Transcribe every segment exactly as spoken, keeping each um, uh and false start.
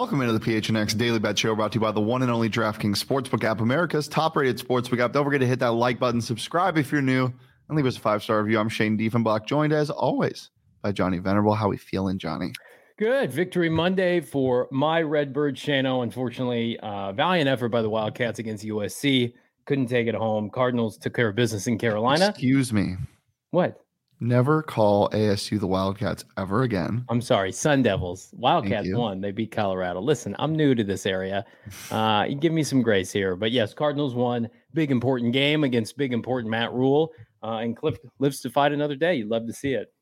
Welcome into the P H N X Daily Bet Show, brought to you by the one and only DraftKings Sportsbook app, America's top-rated sportsbook app. Don't forget to hit that like button, subscribe if you're new, and leave us a five-star review. I'm Shane Diefenbach, joined as always by Johnny Venerable. How we feeling, Johnny? Good. Victory Monday for my Redbird Shano. Unfortunately, uh, valiant effort by the Wildcats against U S C. Couldn't take it home. Cardinals took care of business in Carolina. Excuse me. What? Never call A S U the Wildcats ever again. I'm sorry. Sun Devils. Wildcats won. They beat Colorado. Listen, I'm new to this area. Uh, you give me some grace here. But yes, Cardinals won. Big important game against big important Matt Rule. Uh, and Cliff lives to fight another day. You'd love to see it.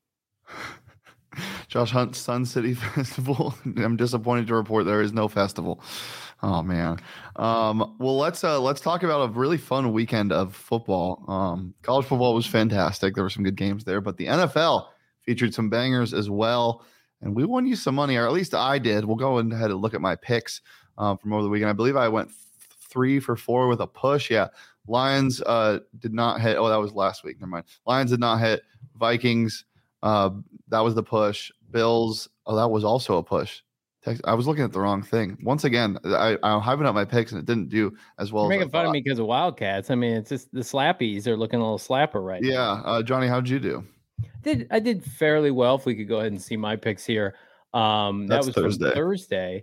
Josh Hunt's Sun City Festival. I'm disappointed to report there is no festival. Oh man. Um, well, let's uh, let's talk about a really fun weekend of football. Um, college football was fantastic. There were some good games there, but the N F L featured some bangers as well. And we won you some money, or at least I did. We'll go ahead and look at my picks um, from over the weekend. I believe I went three for four with a push. Yeah. Lions uh, did not hit. Oh, that was last week. Never mind. Lions did not hit. Vikings. Uh, that was the push. Bills. Oh, that was also a push. I was looking at the wrong thing. Once again, I, I'm hyping up my picks and it didn't do as well. You're as making fun of me because of Wildcats. I mean, it's just the slappies are looking a little slapper right yeah. now. Yeah. Uh, Johnny, how'd you do? Did I did fairly well. If we could go ahead and see my picks here. Um, that That's was Thursday. Thursday.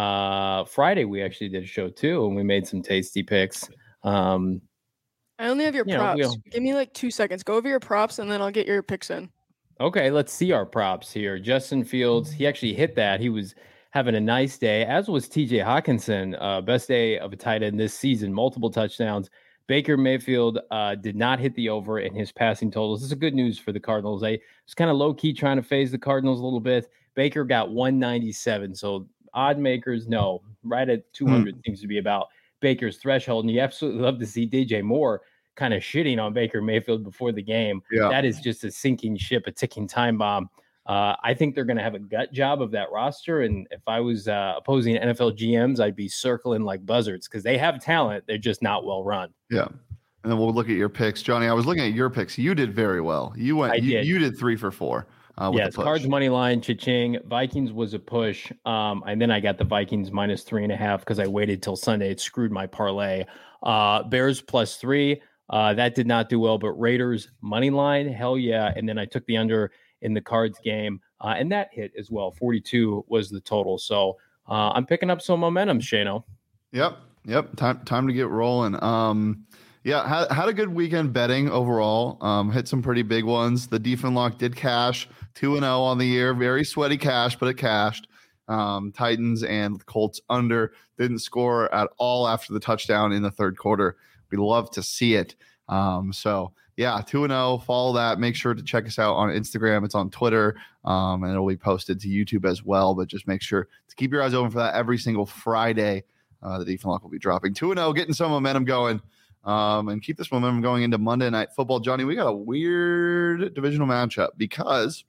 Uh, Friday, we actually did a show too, and we made some tasty picks. Um, I only have your you know, props. we'll, Give me like two seconds. Go over your props, and then I'll get your picks in. Okay, let's see our props here. Justin Fields, he actually hit that. He was having a nice day, as was T J Hawkinson. Uh, best day of a tight end this season, multiple touchdowns. Baker Mayfield uh, did not hit the over in his passing totals. This is good news for the Cardinals. I was kind of low-key trying to phase the Cardinals a little bit. Baker got one ninety-seven, so odd makers, no. Right at two hundred mm. seems to be about Baker's threshold, and you absolutely love to see D J Moore kind of shitting on Baker Mayfield before the game. Yeah. That is just a sinking ship, a ticking time bomb. Uh, I think they're going to have a gut job of that roster. And if I was uh, opposing N F L G Ms, I'd be circling like buzzards because they have talent. They're just not well run. Yeah. And then we'll look at your picks. Johnny, I was looking at your picks. You did very well. You went, I you did. you did three for four. Uh, with yes, Cards money line, cha-ching. Vikings was a push. Um, and then I got the Vikings minus three and a half because I waited till Sunday. It screwed my parlay. Uh, Bears plus three. Uh, that did not do well, but Raiders money line, hell yeah. And then I took the under in the Cards game, uh, and that hit as well. forty-two was the total. So uh, I'm picking up some momentum, Shano. Yep, yep. Time time to get rolling. Um, yeah, had, had a good weekend betting overall. Um, hit some pretty big ones. The Diefenbach did cash two and zero on the year. Very sweaty cash, but it cashed. Um, Titans and Colts under, didn't score at all after the touchdown in the third quarter. We love to see it. Um, so yeah, two and oh, follow that. Make sure to check us out on Instagram. It's on Twitter. Um, and it'll be posted to YouTube as well, but just make sure to keep your eyes open for that every single Friday. Uh, the Diefenbach will be dropping two and oh, getting some momentum going. Um, and keep this momentum going into Monday Night Football. Johnny, we got a weird divisional matchup because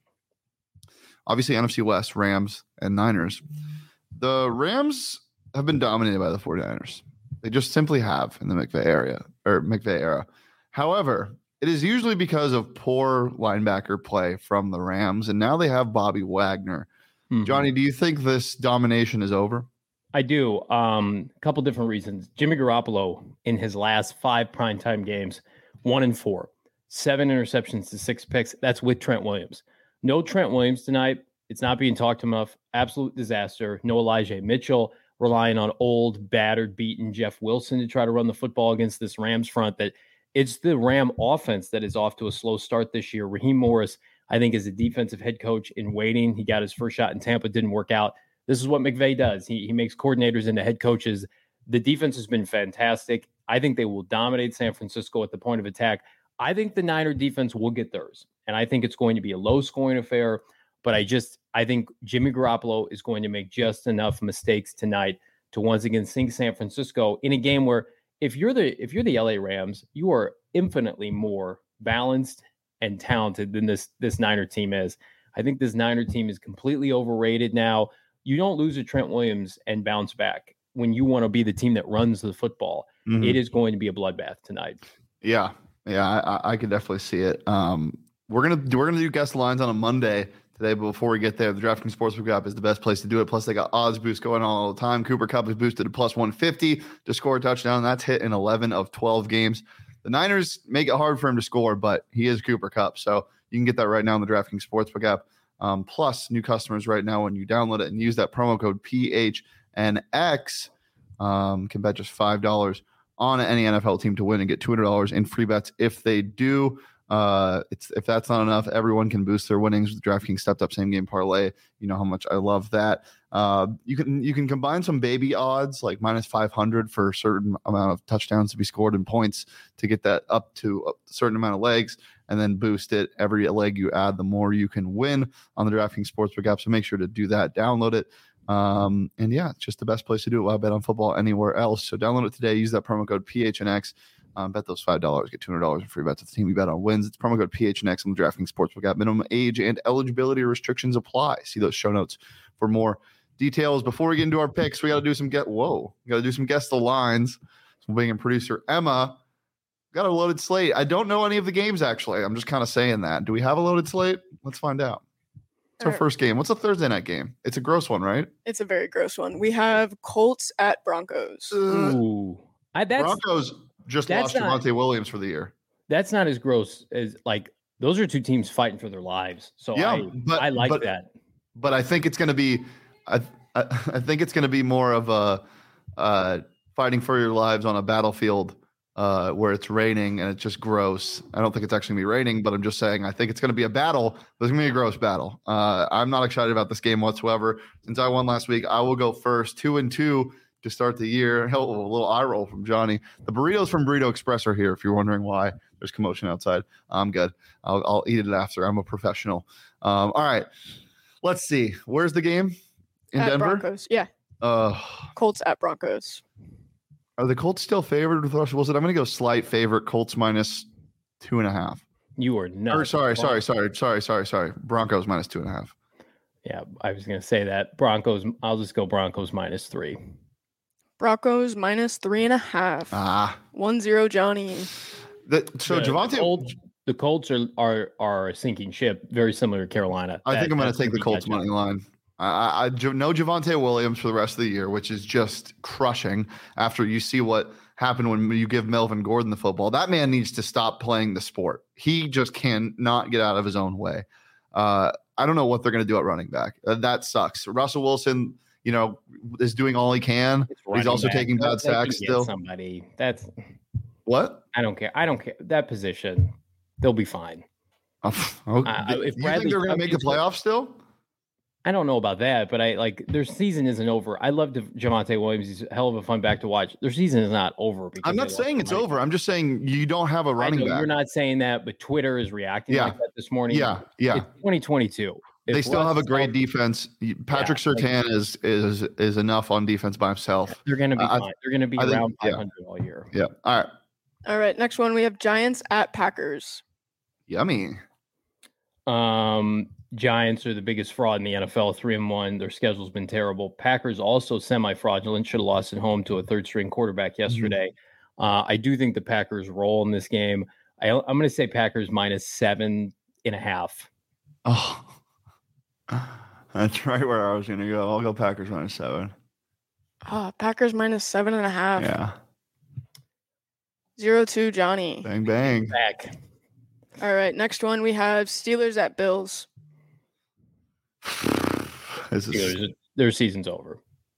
obviously N F C West, Rams and Niners. The Rams have been dominated by the 49ers. They just simply have in the McVay area or McVay era. However, it is usually because of poor linebacker play from the Rams, and now they have Bobby Wagner. Mm-hmm. Johnny, do you think this domination is over? I do. Um, a couple different reasons. Jimmy Garoppolo in his last five primetime games, one and four, seven interceptions to six picks. That's with Trent Williams. No Trent Williams tonight. It's not being talked enough. Absolute disaster. No Elijah Mitchell. Relying on old, battered, beaten Jeff Wilson to try to run the football against this Rams front. That it's the Ram offense that is off to a slow start this year. Raheem Morris, I think, is a defensive head coach in waiting. He got his first shot in Tampa, didn't work out. This is what McVay does. He, he makes coordinators into head coaches. The defense has been fantastic. I think they will dominate San Francisco at the point of attack. I think the Niner defense will get theirs, and I think it's going to be a low-scoring affair. But I just, I think Jimmy Garoppolo is going to make just enough mistakes tonight to once again sink San Francisco in a game where if you're the if you're the L A Rams, you are infinitely more balanced and talented than this this Niner team is. I think this Niner team is completely overrated now. You don't lose to Trent Williams and bounce back when you want to be the team that runs the football. Mm-hmm. It is going to be a bloodbath tonight. Yeah, yeah, I, I could definitely see it. Um, we're gonna we're gonna do guest lines on a Monday today. But before we get there, the DraftKings Sportsbook app is the best place to do it. Plus, they got odds boost going on all the time. Cooper Kupp is boosted to plus one fifty to score a touchdown. That's hit in eleven of twelve games. The Niners make it hard for him to score, but he is Cooper Kupp. So you can get that right now in the DraftKings Sportsbook app. Um, plus, new customers right now, when you download it and use that promo code P H N X, um, can bet just five dollars on any N F L team to win and get two hundred dollars in free bets if they do. Uh, it's if that's not enough, everyone can boost their winnings with DraftKings stepped up same game parlay. You know how much I love that. Uh, you can you can combine some baby odds like minus five hundred for a certain amount of touchdowns to be scored and points to get that up to a certain amount of legs, and then boost it. Every leg you add, the more you can win on the DraftKings Sportsbook app. So make sure to do that. Download it. Um, and yeah, it's just the best place to do it. Why bet on football anywhere else? So download it today. Use that promo code P H N X. Um, bet those five dollars, get two hundred dollars in free bets if the team you bet on wins. It's promo code P H N X on the DraftKings Sportsbook app. Minimum age and eligibility restrictions apply. See those show notes for more details. Before we get into our picks, we got to do some get. Whoa, we got to do some guess the lines. So we'll bring in producer Emma. Got a loaded slate. I don't know any of the games actually. I'm just kind of saying that. Do we have a loaded slate? Let's find out. It's our Alright. first game. What's a Thursday night game? It's a gross one, right? It's a very gross one. We have Colts at Broncos. Ooh, I, that's Broncos just that's lost not- Javonte Williams for the year. that's not as gross as like those are two teams fighting for their lives. So Yeah, I, but- I like but- that. But I think it's going to be, I, I, I think it's going to be more of a uh, fighting for your lives on a battlefield uh, where it's raining and it's just gross. I don't think it's actually going to be raining, but I'm just saying I think it's going to be a battle. But it's going to be a gross battle. Uh, I'm not excited about this game whatsoever. Since I won last week, I will go first, two and two to start the year. Hell, a little eye roll from Johnny. The burritos from Burrito Express are here. If you're wondering why there's commotion outside, I'm good. I'll, I'll eat it after. I'm a professional. Um, all right. Let's see. Where's the game? In at Denver? Broncos. Yeah. Uh, Colts at Broncos. are the Colts still favored with Russell Wilson? I'm going to go slight favorite. Colts minus two and a half. You are not. Or sorry, sorry, sorry, sorry, sorry, sorry. Broncos minus two and a half. Yeah, I was going to say that. Broncos, I'll just go Broncos minus three. Broncos minus three and a half. Ah, One zero Johnny. that, so the, Javonte. The Colts, the Colts are, are are a sinking ship, very similar to Carolina. I That- think I'm going that's to take the be Colts catch up. money line. I, I, I jo- know Javonte Williams for the rest of the year, which is just crushing. After you see what happened when you give Melvin Gordon the football, that man needs to stop playing the sport. He just cannot get out of his own way. Uh, I don't know what they're going to do at running back. Uh, that sucks. Russell Wilson, you know, is doing all he can. It's He's running also back. taking They'll- bad they can sacks get still. Somebody that's What? I don't care. I don't care that position. They'll be fine. Oh, okay. Uh, Do if you Bradley think they're going to Chubb make the gets hurt- playoffs still? I don't know about that, but I like their season isn't over. I love Javonte Williams. He's a hell of a fun back to watch. Their season is not over. Because I'm they not lost saying it's somebody. over. I'm just saying you don't have a I running know back. You're not saying that, but Twitter is reacting Yeah. like that this morning. Yeah, yeah. It's twenty twenty-two. They If still Russ have a is great healthy, defense. Patrick Yeah, like- Surtain is is is enough on defense by himself. They're going to be I- fine. They're going to be I think- around yeah. five hundred all year. Yeah. All right. All right. Next one, we have Giants at Packers. Yummy. Um, Giants are the biggest fraud in the N F L, three and one. Their schedule's been terrible. Packers also semi-fraudulent. Should have lost at home to a third-string quarterback yesterday. Uh, I do think the Packers roll in this game. I, I'm going to say Packers minus seven and a half. Oh, that's right where I was going to go. I'll go Packers minus seven. Ah, Packers minus seven and a half. Yeah. Zero two Johnny. Bang bang. Back. All right. Next one, we have Steelers at Bills. This is, Steelers, their season's over.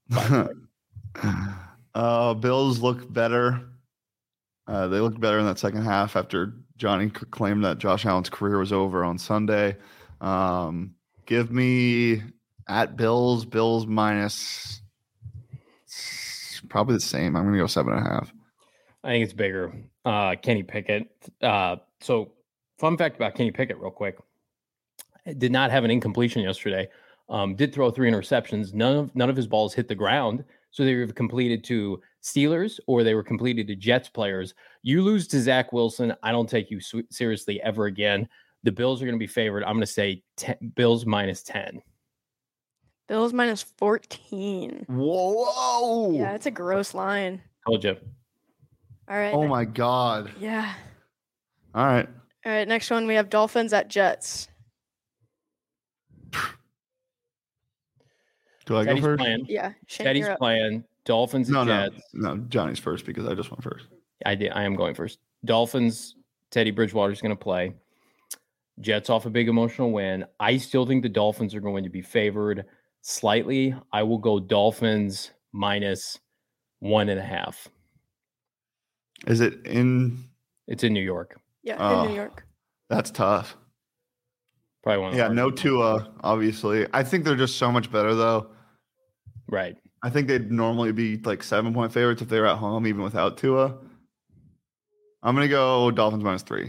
uh, Bills look better. Uh, they looked better in that second half after Johnny c- claimed that Josh Allen's career was over on Sunday. Um, give me at Bills, Bills minus probably the same. I'm going to go seven and a half. I think it's bigger. Uh, Kenny Pickett. Uh, so, fun fact about Kenny Pickett, real quick. Did not have an incompletion yesterday. Um, did throw three interceptions. None of none of his balls hit the ground. So they were completed to Steelers or they were completed to Jets players. You lose to Zach Wilson, I don't take you su- seriously ever again. The Bills are going to be favored. I'm going to say ten, Bills minus ten. Bills minus fourteen. Whoa! whoa. Yeah, it's a gross line. Told you. All right. Oh ne- my God! Yeah. All right. All right. Next one, we have Dolphins at Jets. Do I Teddy's go first? playing. Yeah. Shane, Teddy's you're up. playing. Dolphins No, and no, Jets. no. Johnny's first because I just went first. I did. I am going first. Dolphins. Teddy Bridgewater's going to play. Jets off a big emotional win. I still think the Dolphins are going to be favored slightly. I will go Dolphins minus one and a half. Is it in? It's in New York. Yeah, Oh. in New York. That's tough. Probably one of the Yeah, no hardest. Tua, obviously. I think they're just so much better, though. Right. I think they'd normally be like seven point favorites if they were at home, even without Tua. I'm going to go Dolphins minus three.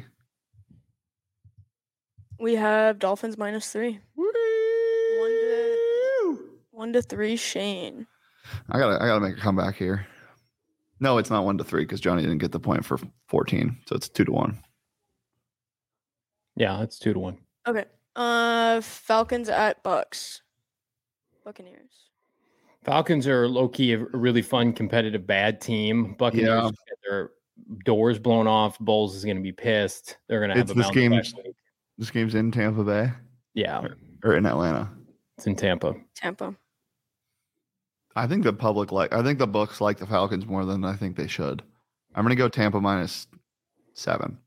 We have Dolphins minus three. One to, one to three, Shane. I gotta, I gotta make a comeback here. No, it's not one to three because Johnny didn't get the point for fourteen, so it's two to one. Yeah, it's two to one. Okay. Uh, Falcons at Bucks. Buccaneers. Falcons are low key a really fun, competitive, bad team. Buccaneers Yeah. get their doors blown off. Bowles is going to be pissed. They're going to have It's a this bounce game's- back week. This game's in Tampa Bay Yeah, or in Atlanta. it's in Tampa. Tampa. I think the public like. I think the books like the Falcons more than I think they should. I'm gonna go Tampa minus seven.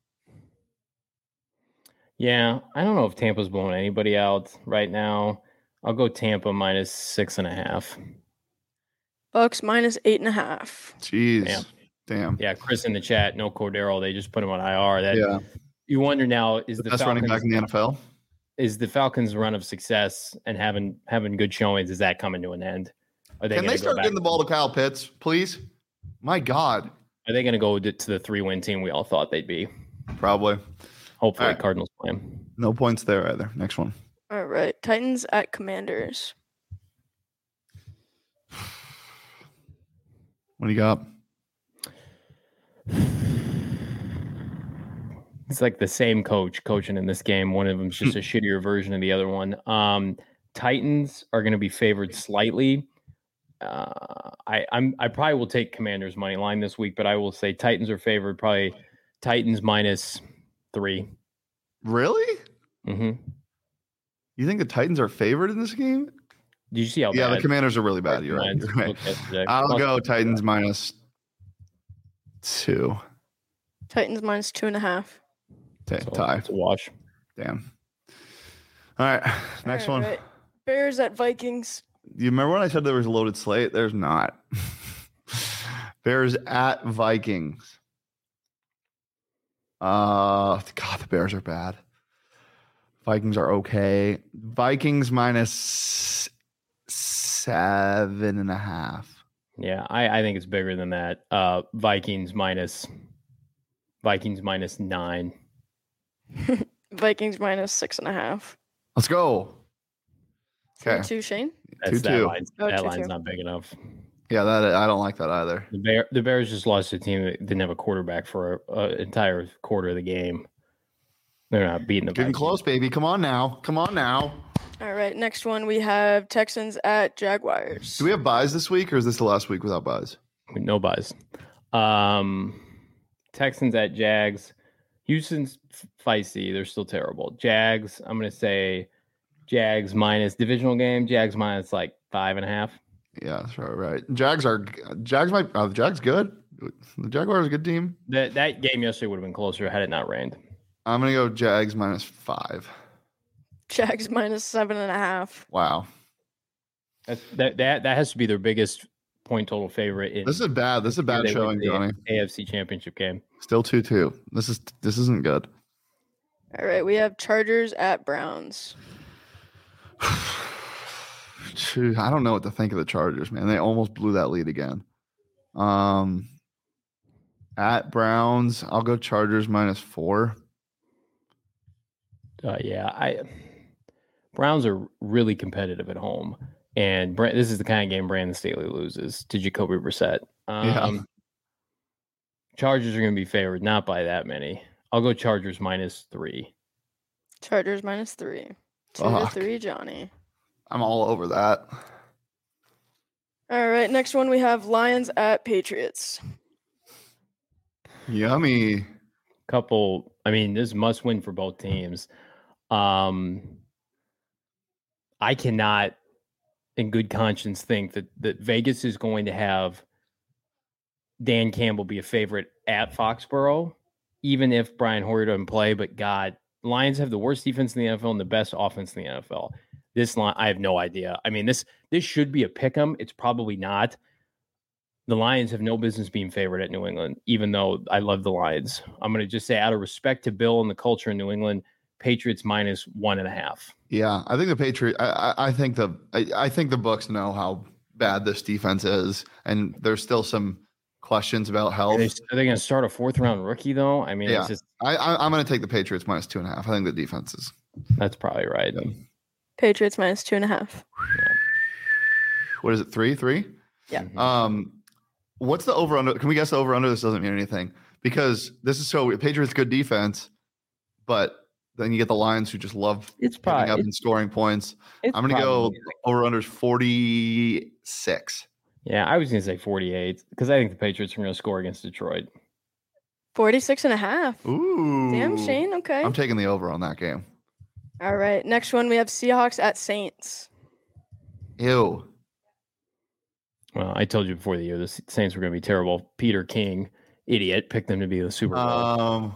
Yeah, I don't know if Tampa's blowing anybody out right now. I'll go Tampa minus six and a half. Bucks minus eight and a half. Jeez, Damn. damn. Yeah, Chris in the chat, no Cordero. They just put him on I R. That Yeah, you wonder now is the the best running back Falcons in the N F L. is the Falcons' run of success and having having good showings, is that coming to an end? Are they Can gonna they go start back- getting the ball to Kyle Pitts, please? My God, Are they going to go to to the three win team we all thought they'd be? probably Hopefully, All right. Cardinals play 'em. no points there either. Next one. All right. Titans at Commanders. What do you got? It's like the same coach coaching in this game. One of them's just a shittier version of the other one. Um, Titans are going to be favored slightly. Uh, I I'm I probably will take Commanders money line this week, but I will say Titans are favored probably Titans minus three. Really? Mm-hmm. You think the Titans are favored in this game? Did you see how Yeah, bad the Commanders are really bad. You're right. Lions You're right. looked yesterday? I'll Plus- go Titans minus two. Titans minus two and a half. Okay, so tie. It's a wash. Damn. All right, next All one. right. Bears at Vikings. You remember when I said there was a loaded slate? There's not. Bears at Vikings. Uh, God, the Bears are bad. Vikings are okay. Vikings minus seven and a half. Yeah, I, I think it's bigger than that. Uh, Vikings minus Vikings minus nine. Vikings minus six and a half. Let's go. Two Okay. two, Shane. That's Two, that two. line's, Oh, that two, line's two. not big enough. Yeah, that I don't like that either. The Bear the Bears just lost to a team that didn't have a quarterback for an entire quarter of the game. They're not beating the Getting Vikings. close, baby. Come on now. Come on now. All right. Next one we have Texans at Jaguars. Do we have buys this week, or is this the last week without buys? No buys. Um, Texans at Jags. Houston's feisty. They're still terrible. Jags. I'm gonna say Jags minus divisional game. Jags minus like five and a half. Yeah, that's right. Right. Jags are Jags. Might uh, the Jags good? The Jaguars are a good team. That that game yesterday would have been closer had it not rained. I'm gonna go Jags minus five. Jags minus seven and a half. Wow, That's, that that that has to be their biggest point total favorite in this is bad. This is a bad they showing, win the Johnny. A F C Championship game. Still two two. This is this isn't good. All right. We have Chargers at Browns. Phew, I don't know what to think of the Chargers, man. They almost blew that lead again. Um, at Browns, I'll go Chargers minus four. Uh, yeah, I Browns are really competitive at home, and Brand, this is the kind of game Brandon Staley loses to Jacoby Brissett. Um, Yeah. Chargers are going to be favored, not by that many. I'll go Chargers minus three. Chargers minus three. Two Fuck. to three, Johnny. I'm all over that. All right. Next one we have Lions at Patriots. Yummy. Couple, I mean, this is must win for both teams. Um, I cannot, in good conscience, think that that Vegas is going to have Dan Campbell be a favorite at Foxborough, even if Brian Hoyer doesn't play. But God, Lions have the worst defense in the N F L and the best offense in the N F L. This line, I have no idea. I mean, this this should be a pick 'em. It's probably not. The Lions have no business being favored at New England, even though I love the Lions. I'm going to just say, out of respect to Bill and the culture in New England, Patriots minus one and a half. Yeah, I think the Patriot. I, I, I think the I, I think the Bucs know how bad this defense is, and there's still some questions about health. Are they, are they going to start a fourth round rookie though? I mean, yeah, it's just, I, I, I'm going to take the Patriots minus two and a half. I think the defense is. That's probably right. Yeah. Patriots minus two and a half. What is it? Three, three. Yeah. Um, what's the over under? Can we guess the over under? This doesn't mean anything because this is so Patriots good defense, but then you get the Lions who just love It's getting probably up it's, and scoring points. it's I'm going to go probably- over under forty-six. Yeah, I was going to say forty-eight because I think the Patriots are going to score against Detroit. forty-six and a half. Ooh. Damn, Shane. Okay. I'm taking the over on that game. All right. Next one, we have Seahawks at Saints. Ew. Well, I told you before the year the Saints were going to be terrible. Peter King, idiot, picked them to be the Super Bowl. Um,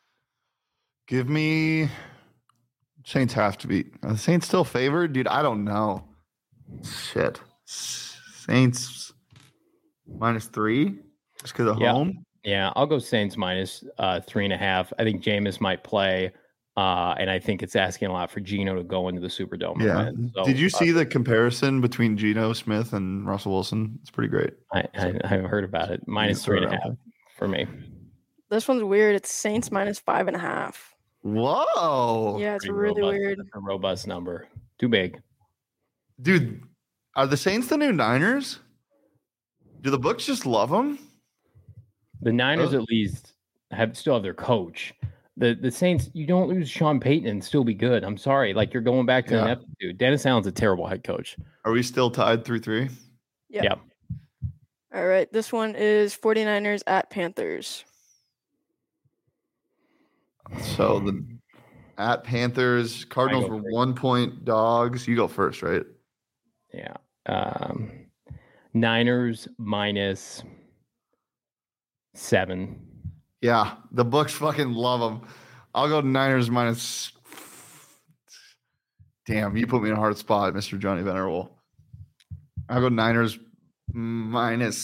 give me Saints have to be. Are the Saints still favored, dude? I don't know. Shit. Saints minus three just because of Yeah. home. Yeah, I'll go Saints minus uh, three and a half. I think Jameis might play, uh, and I think it's asking a lot for Geno to go into the Superdome. Yeah. and win. So, Did you uh, see the comparison between Geno Smith and Russell Wilson? It's pretty great. I, I, I've heard about it. Minus Yeah, three and a throw it half for me. This one's weird. It's Saints minus five and a half. Whoa. Yeah, it's Pretty really robust. weird. That's a robust number. Too big. Dude, are the Saints the new Niners? Do the books just love them? The Niners Oh. at least have still have their coach. The the Saints, you don't lose Sean Payton and still be good. I'm sorry. Like you're going back to Yeah. an aptitude. Dennis Allen's a terrible head coach. Are we still tied three three? Yeah. Yeah. All right. This one is 49ers at Panthers. So the at Panthers, Cardinals go were first. one point dogs. You go first, right? Yeah. Um, Niners minus seven. Yeah, the books fucking love them. I'll go Niners minus. Damn, you put me in a hard spot, Mister Johnny Venerable. I'll go Niners minus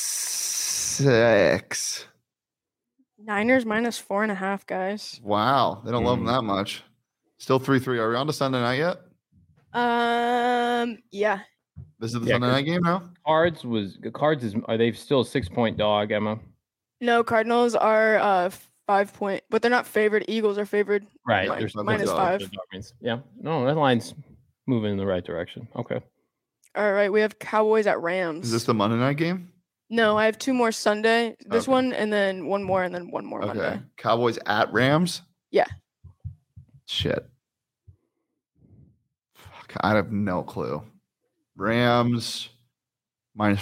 six. Niners minus four and a half, guys. Wow, they don't love them Mm. that much. Still three three. Are we on to Sunday night yet? Um, yeah. This is the Yeah, Sunday 'cause- night game now? Cards was Cards is are they still a six point dog, Emma? No, Cardinals are uh five point, but they're not favored. Eagles are favored. Right. Mi- They're still minus dog. five. They're dog means- Yeah. No, that line's moving in the right direction. Okay. All right, we have Cowboys at Rams. Is this the Monday night game? No, I have two more Sunday. This Okay. one, and then one more, and then one more Okay. Monday. Cowboys at Rams? Yeah. Shit. Fuck, I have no clue. Rams minus.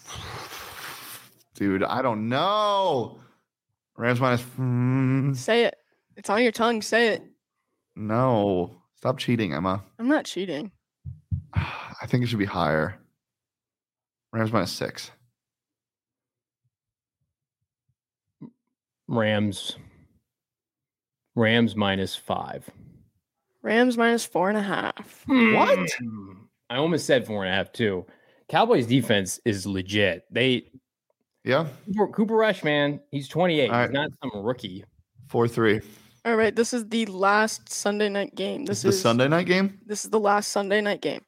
Dude, I don't know. Rams minus. mm, Say it. It's on your tongue. Say it. No. Stop cheating, Emma. I'm not cheating. I think it should be higher. Rams minus six. Rams. Rams minus five. Rams minus four and a half. What? Hmm. I almost said four and a half too. Cowboys defense is legit. They Yeah. Cooper, Cooper Rush, man, he's twenty-eight. All He's right. not some rookie. four three. All right, this is the last Sunday night game. This This is is the Sunday night game? This is the last Sunday night game.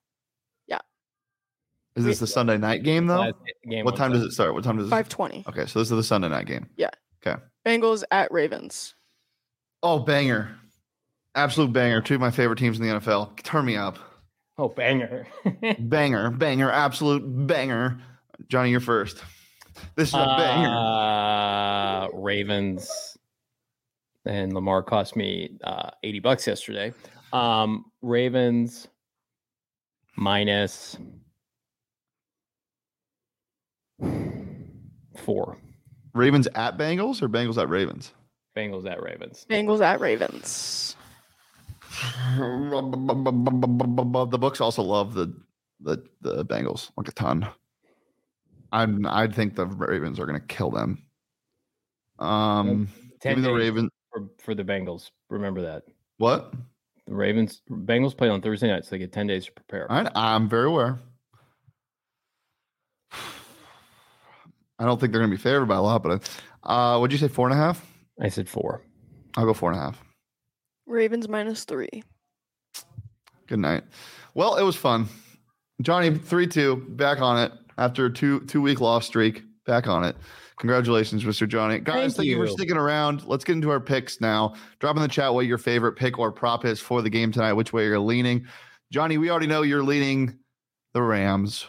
Is this the Sunday night game, though? Last game What on time does Sunday. it start? What time does it Five twenty. Okay, so this is the Sunday night game. Bengals at Ravens. Oh, banger. Absolute banger. Two of my favorite teams in the N F L. Turn me up. Oh, banger. Banger, banger, absolute banger. Johnny, you're first. This is a banger. Uh, Ravens and Lamar cost me uh, eighty bucks yesterday. Um, Ravens minus four. Ravens at Bengals or Bengals at Ravens? Bengals at Ravens. Bengals at Ravens. The books also love the the the Bengals like a ton. I'm I think the Ravens are going to kill them. Um, give me the Ravens for, for the Bengals. Remember that. What? The Ravens Bengals play on Thursday night, so they get ten days to prepare. All right, I'm very aware. I don't think they're going to be favored by a lot, but uh, what'd you say? Four and a half? I said four. I'll go four and a half. Ravens minus three. Good night. Well, it was fun. Johnny, three two, back on it after a two two week loss streak. Back on it. Congratulations, Mister Johnny. Guys, thank, thank you. you for sticking around. Let's get into our picks now. Drop in the chat what your favorite pick or prop is for the game tonight, which way you're leaning. Johnny, we already know you're leaning the Rams.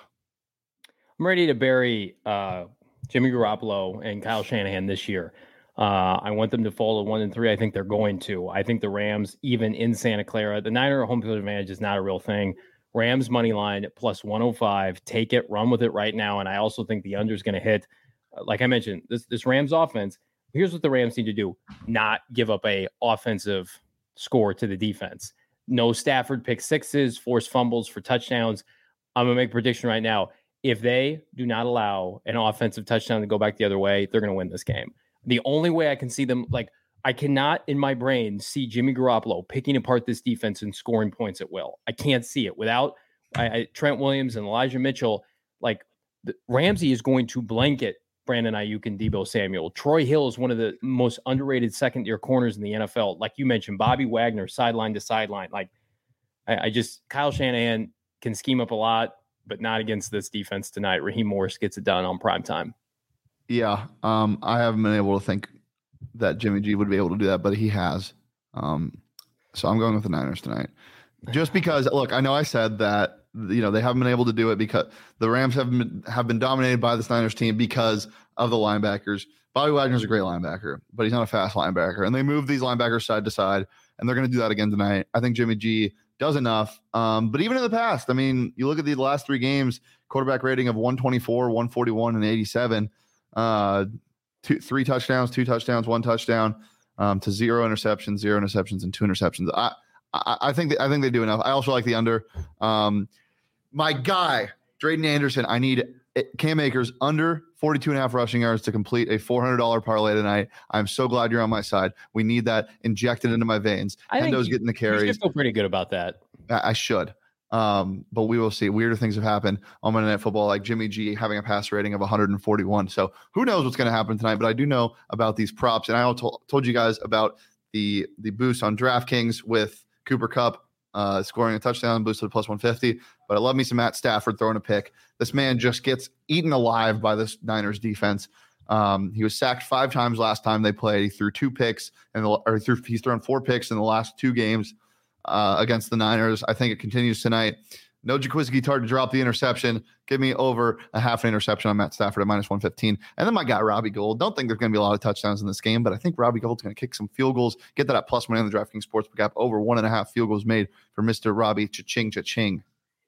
I'm ready to bury uh, Jimmy Garoppolo and Kyle Shanahan this year. Uh, I want them to fall to one and three. I think they're going to. I think the Rams, even in Santa Clara, the Niner home field advantage is not a real thing. Rams money line plus one oh five. Take it, run with it right now. And I also think the under is going to hit. Like I mentioned, this this Rams offense. Here's what the Rams need to do: not give up a offensive score to the defense. No Stafford pick sixes, force fumbles for touchdowns. I'm gonna make a prediction right now. If they do not allow an offensive touchdown to go back the other way, they're going to win this game. The only way I can see them, like, I cannot in my brain see Jimmy Garoppolo picking apart this defense and scoring points at will. I can't see it without I, I, Trent Williams and Elijah Mitchell. Like, the, Ramsey is going to blanket Brandon Ayuk and Deebo Samuel. Troy Hill is one of the most underrated second-year corners in the N F L. Like you mentioned, Bobby Wagner, sideline to sideline. Like, I, I just, Kyle Shanahan can scheme up a lot, but not against this defense tonight. Raheem Morris gets it done on prime time. Yeah, um, I haven't been able to think that Jimmy G would be able to do that, but he has. Um, so I'm going with the Niners tonight. Just because, look, I know I said that, you know, they haven't been able to do it because the Rams have been, have been dominated by this Niners team because of the linebackers. Bobby Wagner's a great linebacker, but he's not a fast linebacker. And they move these linebackers side to side, and they're going to do that again tonight. I think Jimmy G does enough. Um, but even in the past, I mean, you look at the last three games, quarterback rating of one twenty-four, one forty-one, and eighty-seven. Uh, two, three touchdowns, two touchdowns, one touchdown, um, to zero interceptions, zero interceptions, and two interceptions. I, I, I think that, I think they do enough. I also like the under. Um, my guy, Drayden Anderson. I need Cam Akers under forty-two and a half rushing yards to complete a four hundred dollars parlay tonight. I'm so glad you're on my side. We need that injected into my veins. I Hendo's think getting the carries. You feel pretty good about that. I, I should. Um, but we will see. Weirder things have happened on Monday Night Football, like Jimmy G having a pass rating of one forty-one. So who knows what's going to happen tonight? But I do know about these props, and I also told you guys about the the boost on DraftKings with Cooper Kupp uh, scoring a touchdown, boosted to plus one fifty. But I love me some Matt Stafford throwing a pick. This man just gets eaten alive by this Niners defense. Um, he was sacked five times last time they played. He threw two picks, and or threw, he's thrown four picks in the last two games. Uh, against the Niners. I think it continues tonight. No Jaquiski Tartt to drop the interception. Give me over a half an interception on Matt Stafford at minus one fifteen. And then my guy, Robbie Gould. Don't think there's going to be a lot of touchdowns in this game, but I think Robbie Gould's going to kick some field goals. Get that at plus money on the DraftKings Sportsbook app. Over one and a half field goals made for Mister Robbie Cha-ching, cha-ching.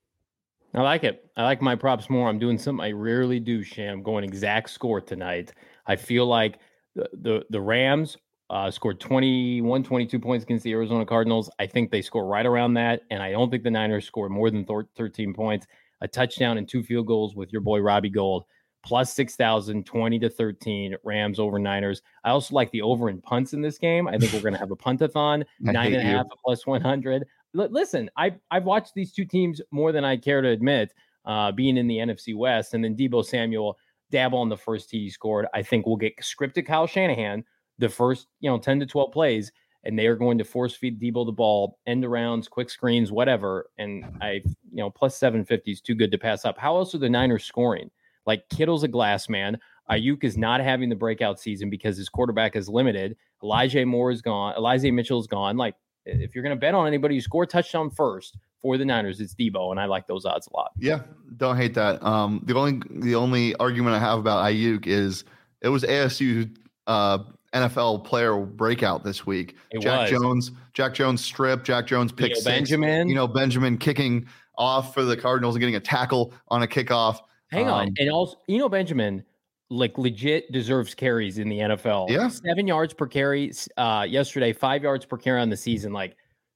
I like it. I like my props more. I'm doing something I rarely do, Sham. Going exact score tonight. I feel like the, the, the Rams Uh, scored twenty-one, twenty-two points against the Arizona Cardinals. I think they score right around that, and I don't think the Niners score more than thirteen points. A touchdown and two field goals with your boy Robbie Gould, plus six thousand, twenty to thirteen, Rams over Niners. I also like the over in punts in this game. I think we're going to have a puntathon, nine and a half, plus one hundred. L- listen, I, I've watched these two teams more than I care to admit, uh, being in the N F C West, and then Deebo Samuel dabble on the first tee he scored. I think we'll get scripted Kyle Shanahan the first, you know, ten to twelve plays, and they are going to force feed Deebo the ball, end arounds, quick screens, whatever. And I, you know, plus seven fifty is too good to pass up. How else are the Niners scoring? Like, Kittle's a glass man. Ayuk is not having the breakout season because his quarterback is limited. Elijah Moore is gone. Elijah Mitchell is gone. Like, if you're going to bet on anybody who score touchdown first for the Niners, it's Deebo, and I like those odds a lot. Yeah, don't hate that. Um, the only the only argument I have about Ayuk is it was A S U uh, N F L player breakout this week. It Jack was. Jones, Jack Jones strip, Jack Jones pick Eno six. Benjamin. You know, Benjamin kicking off for the Cardinals and getting a tackle on a kickoff. Hang um, on. And also, you know, Benjamin, like, legit deserves carries in the N F L. Yeah. Seven yards per carry uh, yesterday, five yards per carry on the season. Like,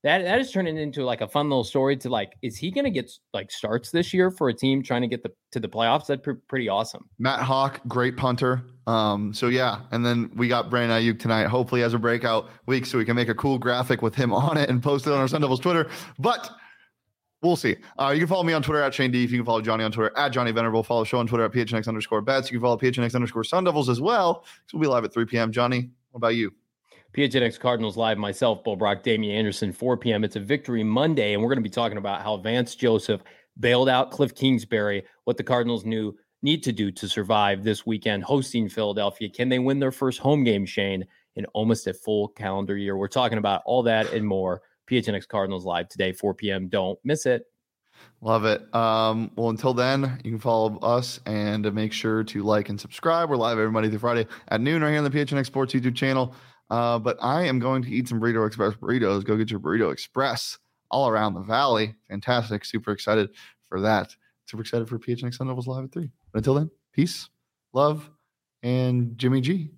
that that is turning into like a fun little story to like, is he going to get like starts this year for a team trying to get the to the playoffs? That's pre- pretty awesome. Matt Hawk, great punter. Um, so yeah, and then we got Brandon Ayuk tonight. Hopefully, has a breakout week, so we can make a cool graphic with him on it and post it on our Sun Devils Twitter. But we'll see. Uh, you can follow me on Twitter at Shane Deef. You can follow Johnny on Twitter at Johnny Venerable. Follow the show on Twitter at P H N X underscore bets. You can follow P H N X underscore Sun Devils as well. So we'll be live at three p.m. Johnny, what about you? P H N X Cardinals Live, myself, Bo Brock, Damian Anderson, four p.m. It's a Victory Monday, and we're going to be talking about how Vance Joseph bailed out Cliff Kingsbury, what the Cardinals knew need to do to survive this weekend hosting Philadelphia. Can they win their first home game, Shane, in almost a full calendar year? We're talking about all that and more. P H N X Cardinals Live today, four p.m. Don't miss it. Love it. Um, well, until then, you can follow us and make sure to like and subscribe. We're live every Monday through Friday at noon right here on the P H N X Sports YouTube channel. Uh, but I am going to eat some Burrito Express burritos. Go get your Burrito Express all around the valley. Fantastic. Super excited for that. Super excited for P H N X Sun Devils Live at three. But until then, peace, love, and Jimmy G.